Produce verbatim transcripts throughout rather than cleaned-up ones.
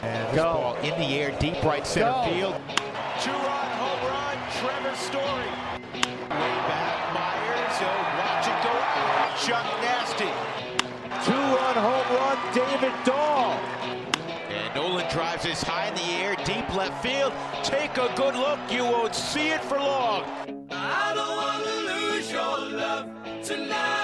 And this Go. ball in the air, deep right center Go. field. Two-run home run, Trevor Story. Way back, Myers. He'll watch it go out. Chuck Nasty. Two-run home run, David Dahl. And Nolan drives this high in the air, deep left field. Take a good look. You won't see it for long. I don't want to lose your love tonight.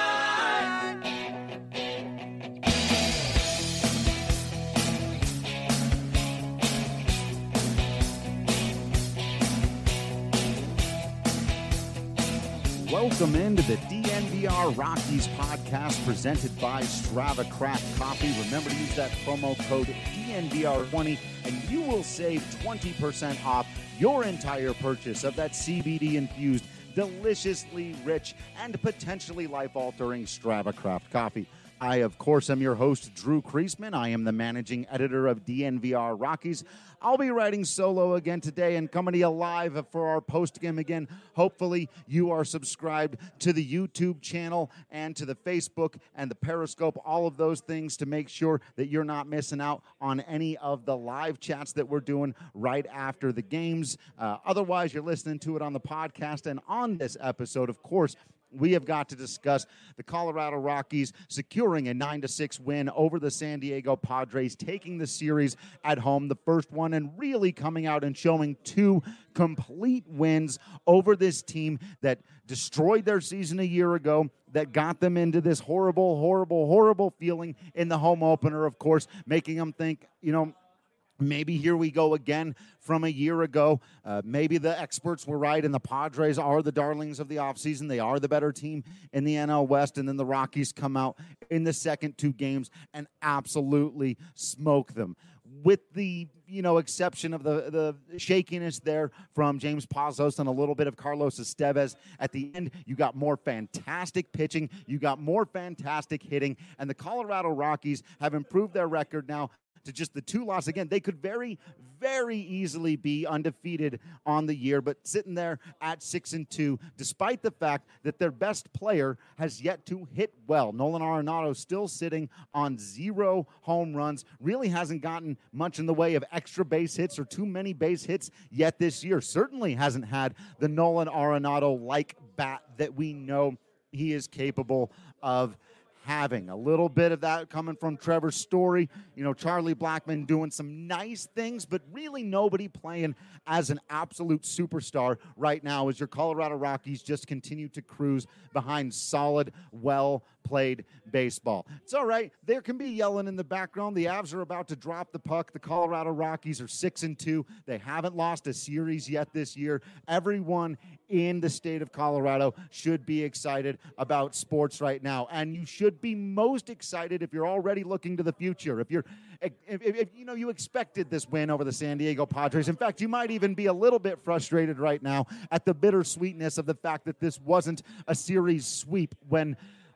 Welcome into the D N V R Rockies podcast presented by Strava Craft Coffee. Remember to use that promo code D N V R twenty and you will save twenty percent off your entire purchase of that C B D-infused, deliciously rich, and potentially life-altering Strava Craft Coffee. I, of course, am your host, Drew Kreisman. I am the managing editor of D N V R Rockies. I'll be writing solo again today and coming to you live for our post-game again. Hopefully, you are subscribed to the YouTube channel and to the Facebook and the Periscope, all of those things to make sure that you're not missing out on any of the live chats that we're doing right after the games. Uh, otherwise, you're listening to it on the podcast. And on this episode, of course, we have got to discuss the Colorado Rockies securing a nine to six win over the San Diego Padres, taking the series at home, the first one, and really coming out and showing two complete wins over this team that destroyed their season a year ago, that got them into this horrible, horrible, horrible feeling in the home opener, of course, making them think, you know, maybe here we go again from a year ago. Uh, maybe the experts were right, and the Padres are the darlings of the offseason. They are the better team in the N L West, and then the Rockies come out in the second two games and absolutely smoke them. With the, you know, exception of the, the shakiness there from James Pazos and a little bit of Carlos Estevez at the end, you got more fantastic pitching, you got more fantastic hitting, and the Colorado Rockies have improved their record now to just the two losses. Again, they could very, very easily be undefeated on the year, but sitting there at six and two, despite the fact that their best player has yet to hit well. Nolan Arenado still sitting on zero home runs, really hasn't gotten much in the way of extra base hits or too many base hits yet this year. Certainly hasn't had the Nolan Arenado-like bat that we know he is capable of having. A little bit of that coming from Trevor Story. You know, Charlie Blackmon doing some nice things, but really nobody playing as an absolute superstar right now as your Colorado Rockies just continue to cruise behind solid, well-played baseball. It's all right. There can be yelling in the background. The Avs are about to drop the puck. The Colorado Rockies are six and two. They haven't lost a series yet this year. Everyone in the state of Colorado should be excited about sports right now, and you should be most excited if you're already looking to the future. If you're, if, if, if you know you expected this win over the San Diego Padres. In fact, you might even be a little bit frustrated right now at the bittersweetness of the fact that this wasn't a series sweep when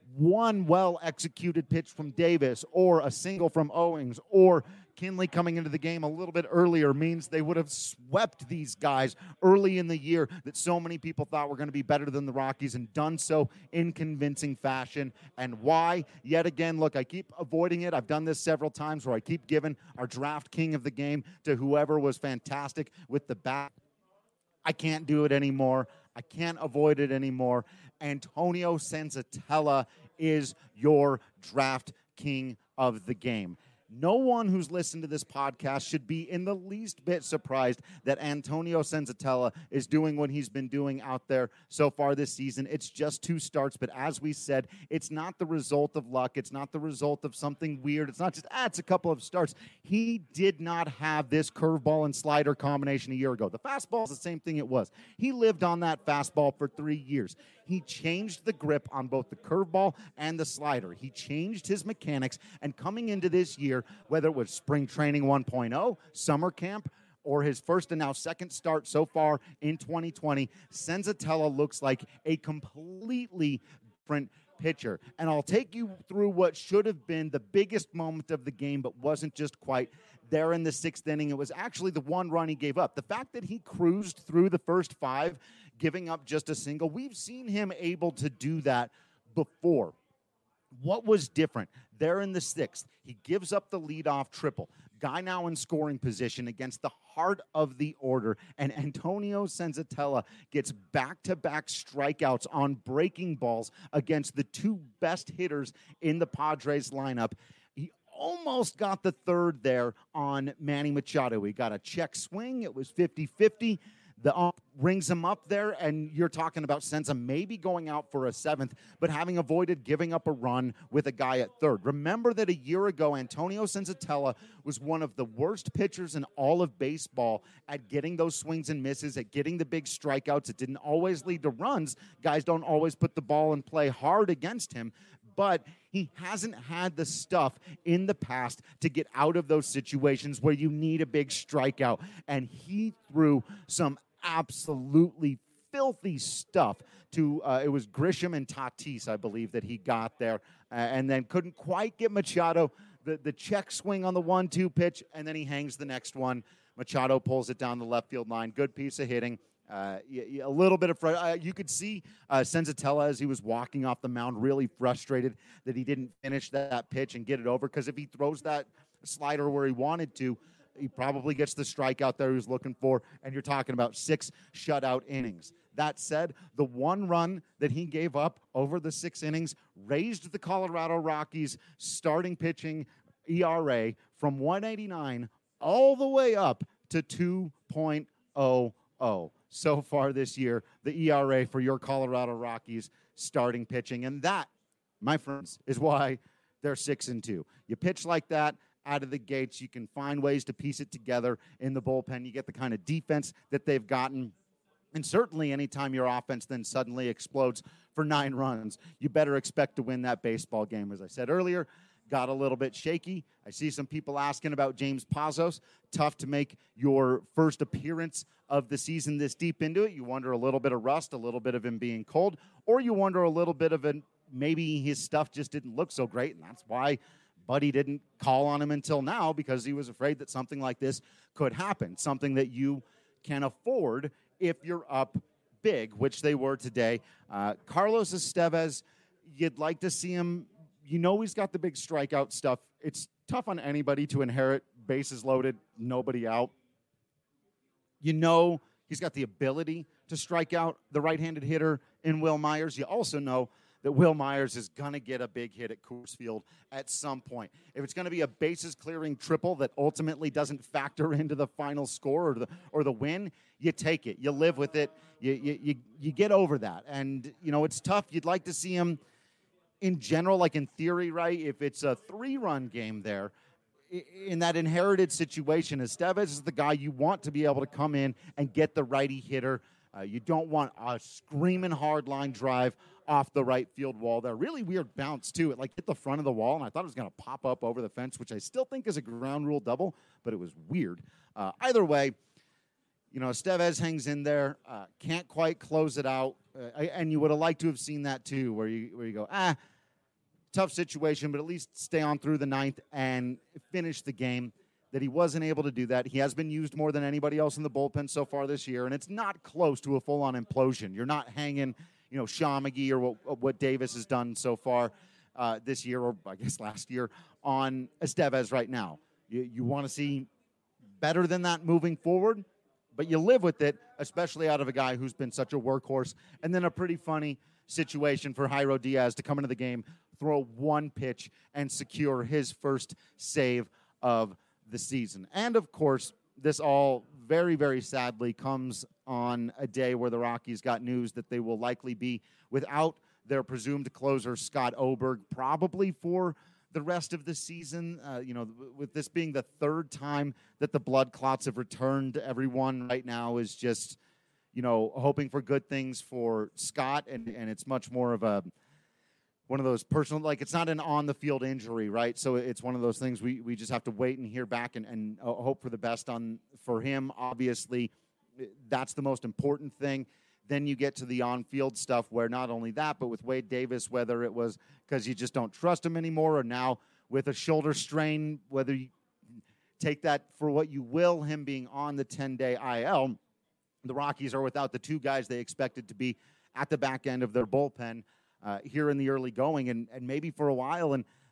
one well-executed pitch from Davis or a single from Owings or Kinley coming into the game a little bit earlier means they would have swept these guys early in the year that so many people thought were going to be better than the Rockies and done so in convincing fashion. And why? Yet again, look, I keep avoiding it. I've done this several times where I keep giving our draft king of the game to whoever was fantastic with the bat. I can't do it anymore. I can't avoid it anymore. Antonio Senzatella is your draft king of the game. No one who's listened to this podcast should be in the least bit surprised that Antonio Senzatella is doing what he's been doing out there so far this season. It's just two starts, but as we said, it's not the result of luck. It's not the result of something weird. It's not just, ah, it's a couple of starts. He did not have this curveball and slider combination a year ago. The fastball is the same thing it was. He lived on that fastball for three years. He changed the grip on both the curveball and the slider. He changed his mechanics, and coming into this year, whether it was spring training one point oh, summer camp, or his first and now second start so far in twenty twenty, Senzatella looks like a completely different pitcher. And I'll take you through what should have been the biggest moment of the game, but wasn't just quite there in the sixth inning. It was actually the one run he gave up. The fact that he cruised through the first five, giving up just a single, we've seen him able to do that before. What was different? There in the sixth, he gives up the leadoff triple. Guy now in scoring position against the heart of the order, and Antonio Senzatella gets back-to-back strikeouts on breaking balls against the two best hitters in the Padres lineup. He almost got the third there on Manny Machado. He got a check swing. It was fifty-fifty. The ump rings him up there, and you're talking about Senza maybe going out for a seventh, but having avoided giving up a run with a guy at third. Remember that a year ago, Antonio Senzatella was one of the worst pitchers in all of baseball at getting those swings and misses, at getting the big strikeouts. It didn't always lead to runs. Guys don't always put the ball in play hard against him, but he hasn't had the stuff in the past to get out of those situations where you need a big strikeout, and he threw some absolutely filthy stuff to, uh, it was Grisham and Tatis, I believe, that he got there, uh, and then couldn't quite get Machado, the, the check swing on the one two pitch, and then he hangs the next one. Machado pulls it down the left field line. Good piece of hitting. Uh, a little bit of, fr- uh, you could see uh, Senzatella as he was walking off the mound really frustrated that he didn't finish that, that pitch and get it over, because if he throws that slider where he wanted to, he probably gets the strikeout there he was looking for, and you're talking about six shutout innings. That said, the one run that he gave up over the six innings raised the Colorado Rockies' starting pitching E R A from one eighty-nine all the way up to two point oh oh. So far this year, the E R A for your Colorado Rockies starting pitching. And that, my friends, is why they're six and two. You pitch like that out of the gates, you can find ways to piece it together in the bullpen. You get the kind of defense that they've gotten. And certainly anytime your offense then suddenly explodes for nine runs, you better expect to win that baseball game. As I said earlier, got a little bit shaky. I see some people asking about James Pazos. Tough to make your first appearance of the season this deep into it. You wonder a little bit of rust, a little bit of him being cold, or you wonder a little bit of an, maybe his stuff just didn't look so great, and that's why Buddy didn't call on him until now, because he was afraid that something like this could happen, something that you can afford if you're up big, which they were today. Uh, Carlos Estevez, you'd like to see him. You know he's got the big strikeout stuff. It's tough on anybody to inherit bases loaded, nobody out. You know he's got the ability to strike out the right-handed hitter in Will Myers. You also know that Will Myers is going to get a big hit at Coors Field at some point. If it's going to be a bases-clearing triple that ultimately doesn't factor into the final score or the or the win, you take it. You live with it. You, you, you, you get over that. And, you know, it's tough. You'd like to see him in general, like in theory, right? If it's a three-run game there, in that inherited situation, Estevez is the guy you want to be able to come in and get the righty hitter. Uh, you don't want a screaming hard line drive off the right field wall there. Really weird bounce, too. It, like, hit the front of the wall, and I thought it was going to pop up over the fence, which I still think is a ground rule double, but it was weird. Uh, either way, you know, Estevez hangs in there, uh, can't quite close it out, uh, and you would have liked to have seen that, too, where you where you go, ah, tough situation, but at least stay on through the ninth and finish the game. That he wasn't able to do that. He has been used more than anybody else in the bullpen so far this year, and it's not close to a full-on implosion. You're not hanging, you know, Sean McGee or what, what Davis has done so far uh, this year, or I guess last year, on Estevez right now. You, you want to see better than that moving forward, but you live with it, especially out of a guy who's been such a workhorse. And then a pretty funny situation for Jairo Diaz to come into the game, throw one pitch, and secure his first save of the season. And, of course, this all very, very sadly comes on a day where the Rockies got news that they will likely be without their presumed closer, Scott Oberg, probably for the rest of the season. Uh, you know, with this being the third time that the blood clots have returned, everyone right now is just, you know, hoping for good things for Scott, and, and it's much more of a one of those personal, like, it's not an on-the-field injury, right? So it's one of those things we, we just have to wait and hear back and, and uh, hope for the best on for him. Obviously, that's the most important thing. Then you get to the on-field stuff where not only that, but with Wade Davis, whether it was because you just don't trust him anymore, or now with a shoulder strain, whether you take that for what you will, him being on the ten-day I L, the Rockies are without the two guys they expected to be at the back end of their bullpen Uh, here in the early going, and, and maybe for a while. And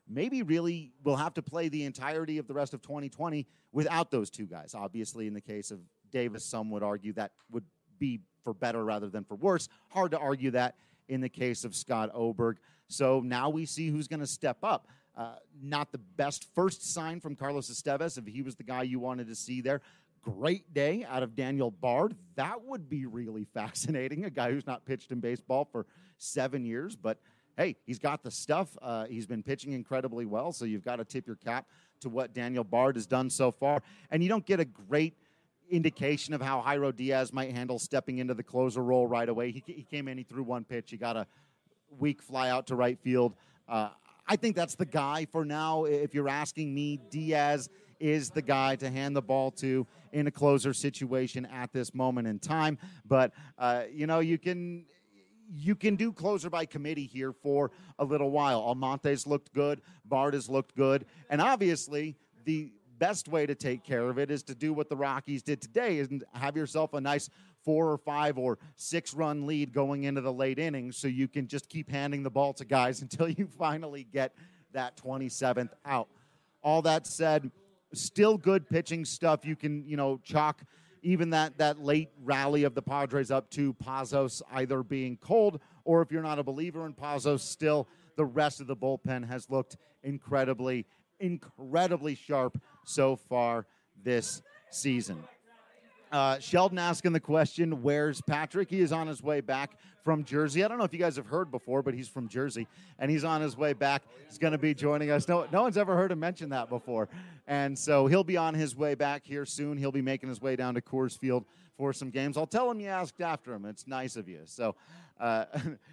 maybe really will have to play the entirety of the rest of twenty twenty without those two guys. Obviously, in the case of Davis, some would argue that would be for better rather than for worse. Hard to argue that in the case of Scott Oberg. So now we see who's going to step up. Uh, not the best first sign from Carlos Estevez, if he was the guy you wanted to see there. Great day out of Daniel Bard. That would be really fascinating, a guy who's not pitched in baseball for seven years. But, hey, he's got the stuff. Uh, he's been pitching incredibly well, so you've got to tip your cap to what Daniel Bard has done so far. And you don't get a great indication of how Jairo Diaz might handle stepping into the closer role right away. He, he came in, he threw one pitch. He got a weak fly out to right field. Uh, I think that's the guy for now. If you're asking me, Diaz is the guy to hand the ball to in a closer situation at this moment in time. But, uh, you know, you can you can do closer by committee here for a little while. Almonte's looked good. Bard has looked good. And obviously, the best way to take care of it is to do what the Rockies did today and have yourself a nice four or five or six run lead going into the late innings so you can just keep handing the ball to guys until you finally get that twenty-seventh out. All that said, still good pitching stuff. You can, you know, chalk even that, that late rally of the Padres up to Pazos either being cold, or if you're not a believer in Pazos, still the rest of the bullpen has looked incredibly, incredibly sharp so far this season. Uh, Sheldon asking the question, where's Patrick? He is on his way back from Jersey. I don't know if you guys have heard before, but he's from Jersey, and he's on his way back. He's going to be joining us. No, no one's ever heard him mention that before. And so he'll be on his way back here soon. He'll be making his way down to Coors Field for some games. I'll tell him you asked after him. It's nice of you. So uh,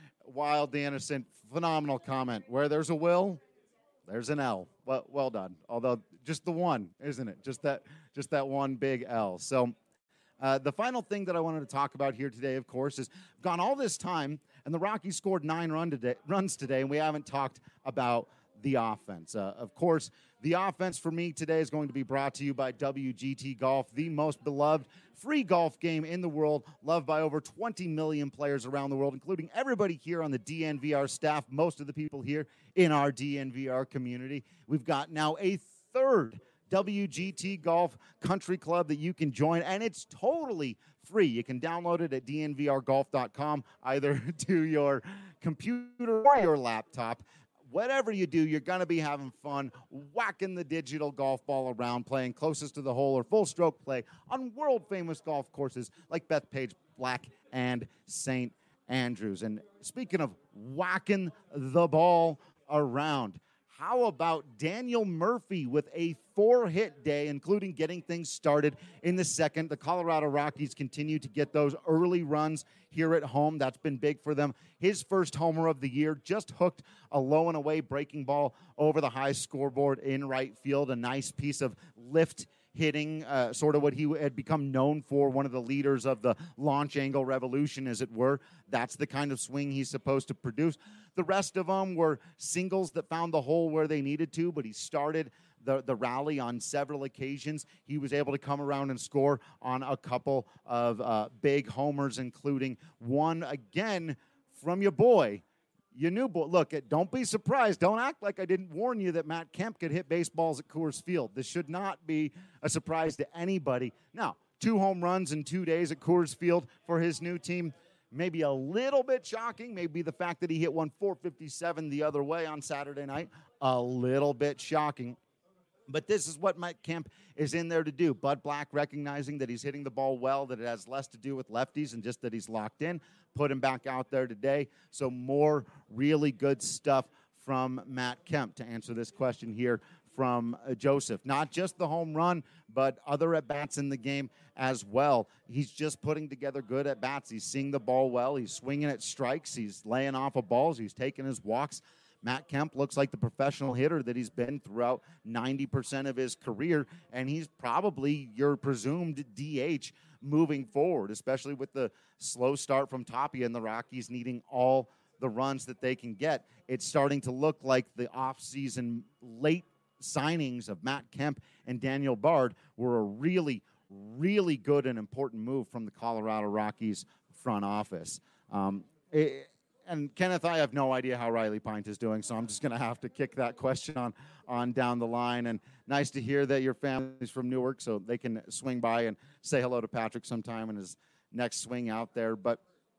Wild the Innocent, phenomenal comment. Where there's a will, there's an L. Well, well done. Although just the one, isn't it? Just that, just that one big L. So Uh, the final thing that I wanted to talk about here today, of course, is gone all this time, and the Rockies scored nine run today, runs today, and we haven't talked about the offense. Uh, of course, the offense for me today is going to be brought to you by W G T Golf, the most beloved free golf game in the world, loved by over twenty million players around the world, including everybody here on the D N V R staff, most of the people here in our D N V R community. We've got now a third W G T Golf Country Club that you can join, and it's totally free. You can download it at D N V R golf dot com, either to your computer or your laptop. Whatever you do, you're going to be having fun whacking the digital golf ball around, playing closest to the hole or full stroke play on world-famous golf courses like Bethpage Black and Saint Andrews. And speaking of whacking the ball around, how about Daniel Murphy with a four-hit day, including getting things started in the second? The Colorado Rockies continue to get those early runs here at home. That's been big for them. His first homer of the year, just hooked a low and away breaking ball over the high scoreboard in right field. A nice piece of lift hitting, uh, sort of what he had become known for, one of the leaders of the launch angle revolution, as it were. That's the kind of swing he's supposed to produce. The rest of them were singles that found the hole where they needed to, but he started the, the rally on several occasions. He was able to come around and score on a couple of uh, big homers, including one, again, from your boy, your new boy. Look, don't be surprised. Don't act like I didn't warn you that Matt Kemp could hit baseballs at Coors Field. This should not be a surprise to anybody. Now, two home runs in two days at Coors Field for his new team. Maybe a little bit shocking. Maybe the fact that he hit one four fifty-seven the other way on Saturday night, a little bit shocking. But this is what Mike Kemp is in there to do. Bud Black recognizing that he's hitting the ball well, that it has less to do with lefties and just that he's locked in, put him back out there today. So more really good stuff from Matt Kemp to answer this question here from uh, Joseph. Not just the home run, but other at-bats in the game as well. He's just putting together good at-bats. He's seeing the ball well. He's swinging at strikes. He's laying off of balls. He's taking his walks. Matt Kemp looks like the professional hitter that he's been throughout ninety percent of his career, and he's probably your presumed D H moving forward, especially with the slow start from Tapia and the Rockies needing all the runs that they can get. It's starting to look like the offseason late signings of Matt Kemp and Daniel Bard were a really, really good and important move from the Colorado Rockies front office. Um, it, and Kenneth, I have no idea how Riley Pint is doing, so I'm just going to have to kick that question on, on down the line. And nice to hear that your family's from Newark, so they can swing by and say hello to Patrick sometime in his next swing out there. But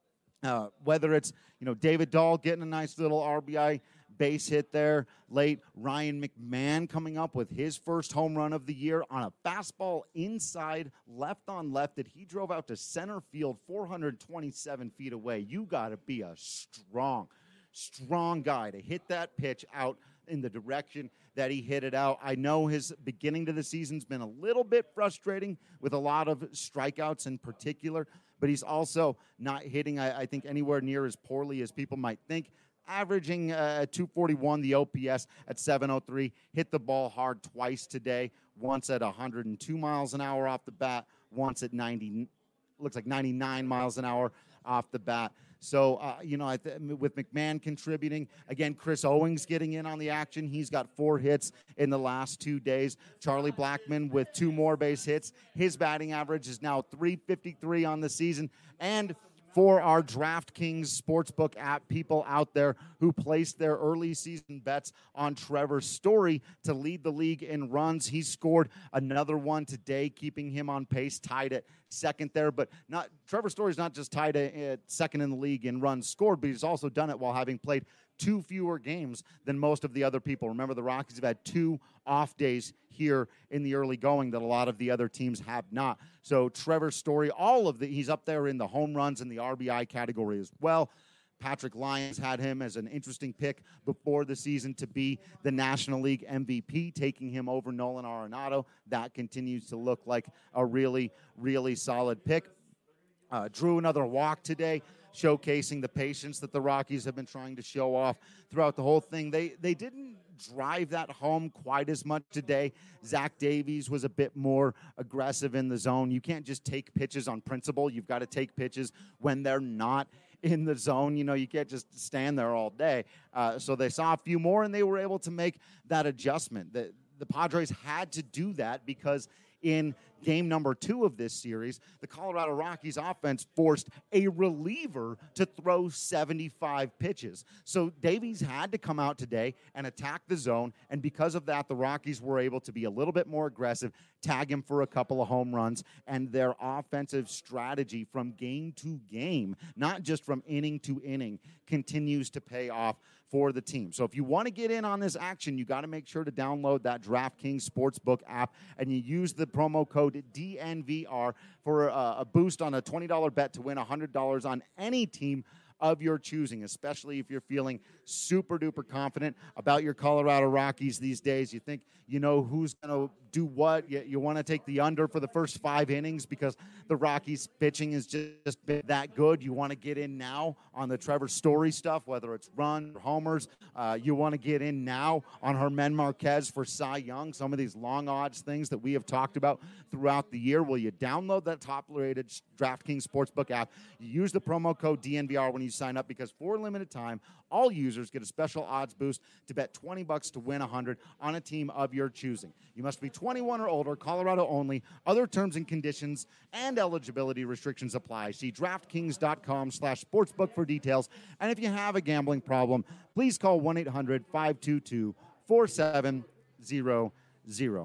uh, whether it's, you know, David Dahl getting a nice little R B I base hit there late, Ryan McMahon coming up with his first home run of the year on a fastball inside, left on left that he drove out to center field four hundred twenty-seven feet away. You got to be a strong, strong guy to hit that pitch out in the direction that he hit it out. I know his beginning to the season's been a little bit frustrating with a lot of strikeouts in particular, but he's also not hitting, I, I think, anywhere near as poorly as people might think. Averaging uh, two forty-one, the O P S at seven oh three. Hit the ball hard twice today, once at one hundred two miles an hour off the bat, once at ninety, looks like ninety-nine miles an hour off the bat. So, uh, you know, I th- with McMahon contributing, again, Chris Owings getting in on the action. He's got four hits in the last two days. Charlie Blackmon with two more base hits. His batting average is now three fifty-three on the season. And for our DraftKings Sportsbook app people out there who placed their early season bets on Trevor Story to lead the league in runs. He scored another one today, keeping him on pace, tied at second there. But not Trevor Story's not just tied at second in the league in runs scored, but he's also done it while having played two fewer games than most of the other people. Remember, the Rockies have had two off days here in the early going that a lot of the other teams have not. So Trevor Story, all of the, he's up there in the home runs and the R B I category as well. Patrick Lyons had him as an interesting pick before the season to be the National League M V P, taking him over Nolan Arenado. That continues to look like a really, really solid pick. Uh, drew another walk today, showcasing the patience that the Rockies have been trying to show off throughout the whole thing. They they didn't drive that home quite as much today. Zach Davies was a bit more aggressive in the zone. You can't just take pitches on principle. You've got to take pitches when they're not in the zone. You know, you can't just stand there all day. Uh, so they saw a few more, and they were able to make that adjustment. The, the Padres had to do that because in game number two of this series, the Colorado Rockies offense forced a reliever to throw seventy-five pitches. So Davies had to come out today and attack the zone, and because of that, the Rockies were able to be a little bit more aggressive, tag him for a couple of home runs, and their offensive strategy from game to game, not just from inning to inning, continues to pay off for the team. So if you want to get in on this action, you got to make sure to download that DraftKings Sportsbook app, and you use the promo code D N V R for a, a boost on a twenty dollars bet to win one hundred dollars on any team of your choosing, especially if you're feeling super duper confident about your Colorado Rockies these days. You think you know who's going to do what. You, you want to take the under for the first five innings because the Rockies pitching is just been that good. You want to get in now on the Trevor Story stuff, whether it's runs or homers. Uh, you want to get in now on Germán Márquez for Cy Young, some of these long odds things that we have talked about throughout the year. Will you download that top-rated DraftKings Sportsbook app? You use the promo code D N V R when you sign up, because for a limited time, all users get a special odds boost to bet twenty bucks to win one hundred on a team of your choosing. You must be twenty-one or older, Colorado only. Other terms and conditions and eligibility restrictions apply. See DraftKings.com slash sportsbook for details. And if you have a gambling problem, please call one eight hundred five two two four seven zero zero.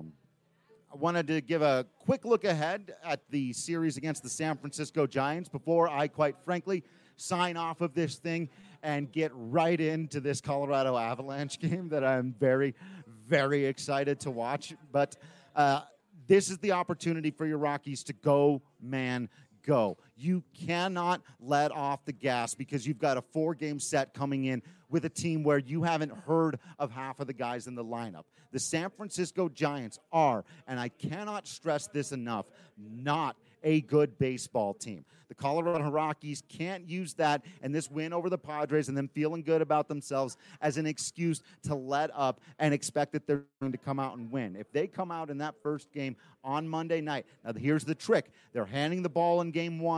I wanted to give a quick look ahead at the series against the San Francisco Giants before I, quite frankly, sign off of this thing and get right into this Colorado Avalanche game that I'm very, very excited to watch. But uh, this is the opportunity for your Rockies to go, man, go. You cannot let off the gas because you've got a four-game set coming in with a team where you haven't heard of half of the guys in the lineup. The San Francisco Giants are, and I cannot stress this enough, not a good baseball team. The Colorado Rockies can't use that and this win over the Padres and them feeling good about themselves as an excuse to let up and expect that they're going to come out and win. If they come out in that first game on Monday night, now here's the trick. They're handing the ball in game one to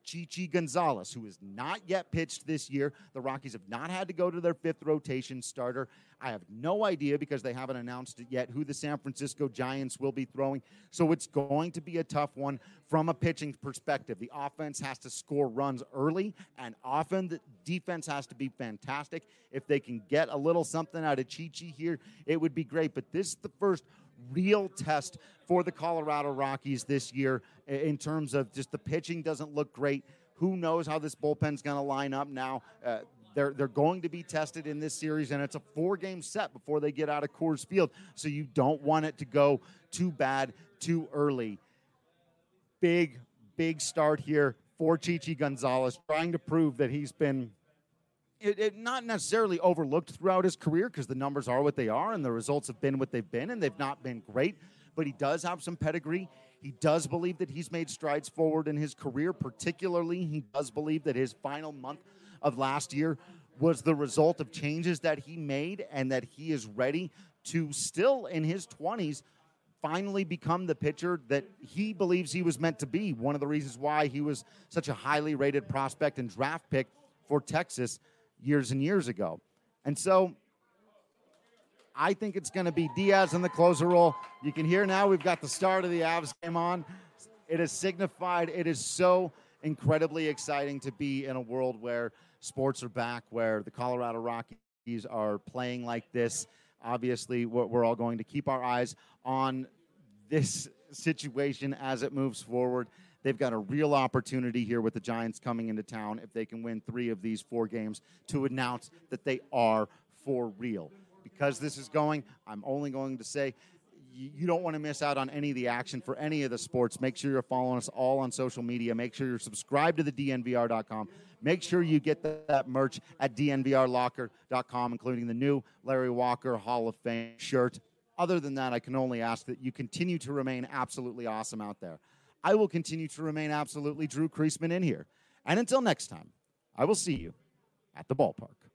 Chichi Gonzalez, who has not yet pitched this year. The Rockies have not had to go to their fifth rotation starter. I have no idea, because they haven't announced it yet, who the San Francisco Giants will be throwing. So it's going to be a tough one from a pitching perspective. The offense has to score runs early and often. The defense has to be fantastic. If they can get a little something out of Chichi here, it would be great. But this is the first real test for the Colorado Rockies this year in terms of just the pitching doesn't look great. Who knows how this bullpen's going to line up now? Uh, they're they're going to be tested in this series, and it's a four-game set before they get out of Coors Field, so you don't want it to go too bad too early. Big, big start here for Chichi Gonzalez, trying to prove that he's been It, it not necessarily overlooked throughout his career, because the numbers are what they are and the results have been what they've been, and they've not been great, but he does have some pedigree. He does believe that he's made strides forward in his career. Particularly, he does believe that his final month of last year was the result of changes that he made, and that he is ready to still in his twenties finally become the pitcher that he believes he was meant to be. One of the reasons why he was such a highly rated prospect and draft pick for Texas years and years ago. And so I think it's going to be Diaz in the closer role. You can hear now we've got the start of the Avs game on. It is signified. It is so incredibly exciting to be in a world where sports are back, where the Colorado Rockies are playing like this. Obviously, we're, we're all going to keep our eyes on this situation as it moves forward. They've got a real opportunity here with the Giants coming into town, if they can win three of these four games, to announce that they are for real. Because this is going, I'm only going to say, you, you don't want to miss out on any of the action for any of the sports. Make sure you're following us all on social media. Make sure you're subscribed to the D N V R dot com. Make sure you get the, that merch at D N V R locker dot com, including the new Larry Walker Hall of Fame shirt. Other than that, I can only ask that you continue to remain absolutely awesome out there. I will continue to remain absolutely Drew Creasman in here. And until next time, I will see you at the ballpark.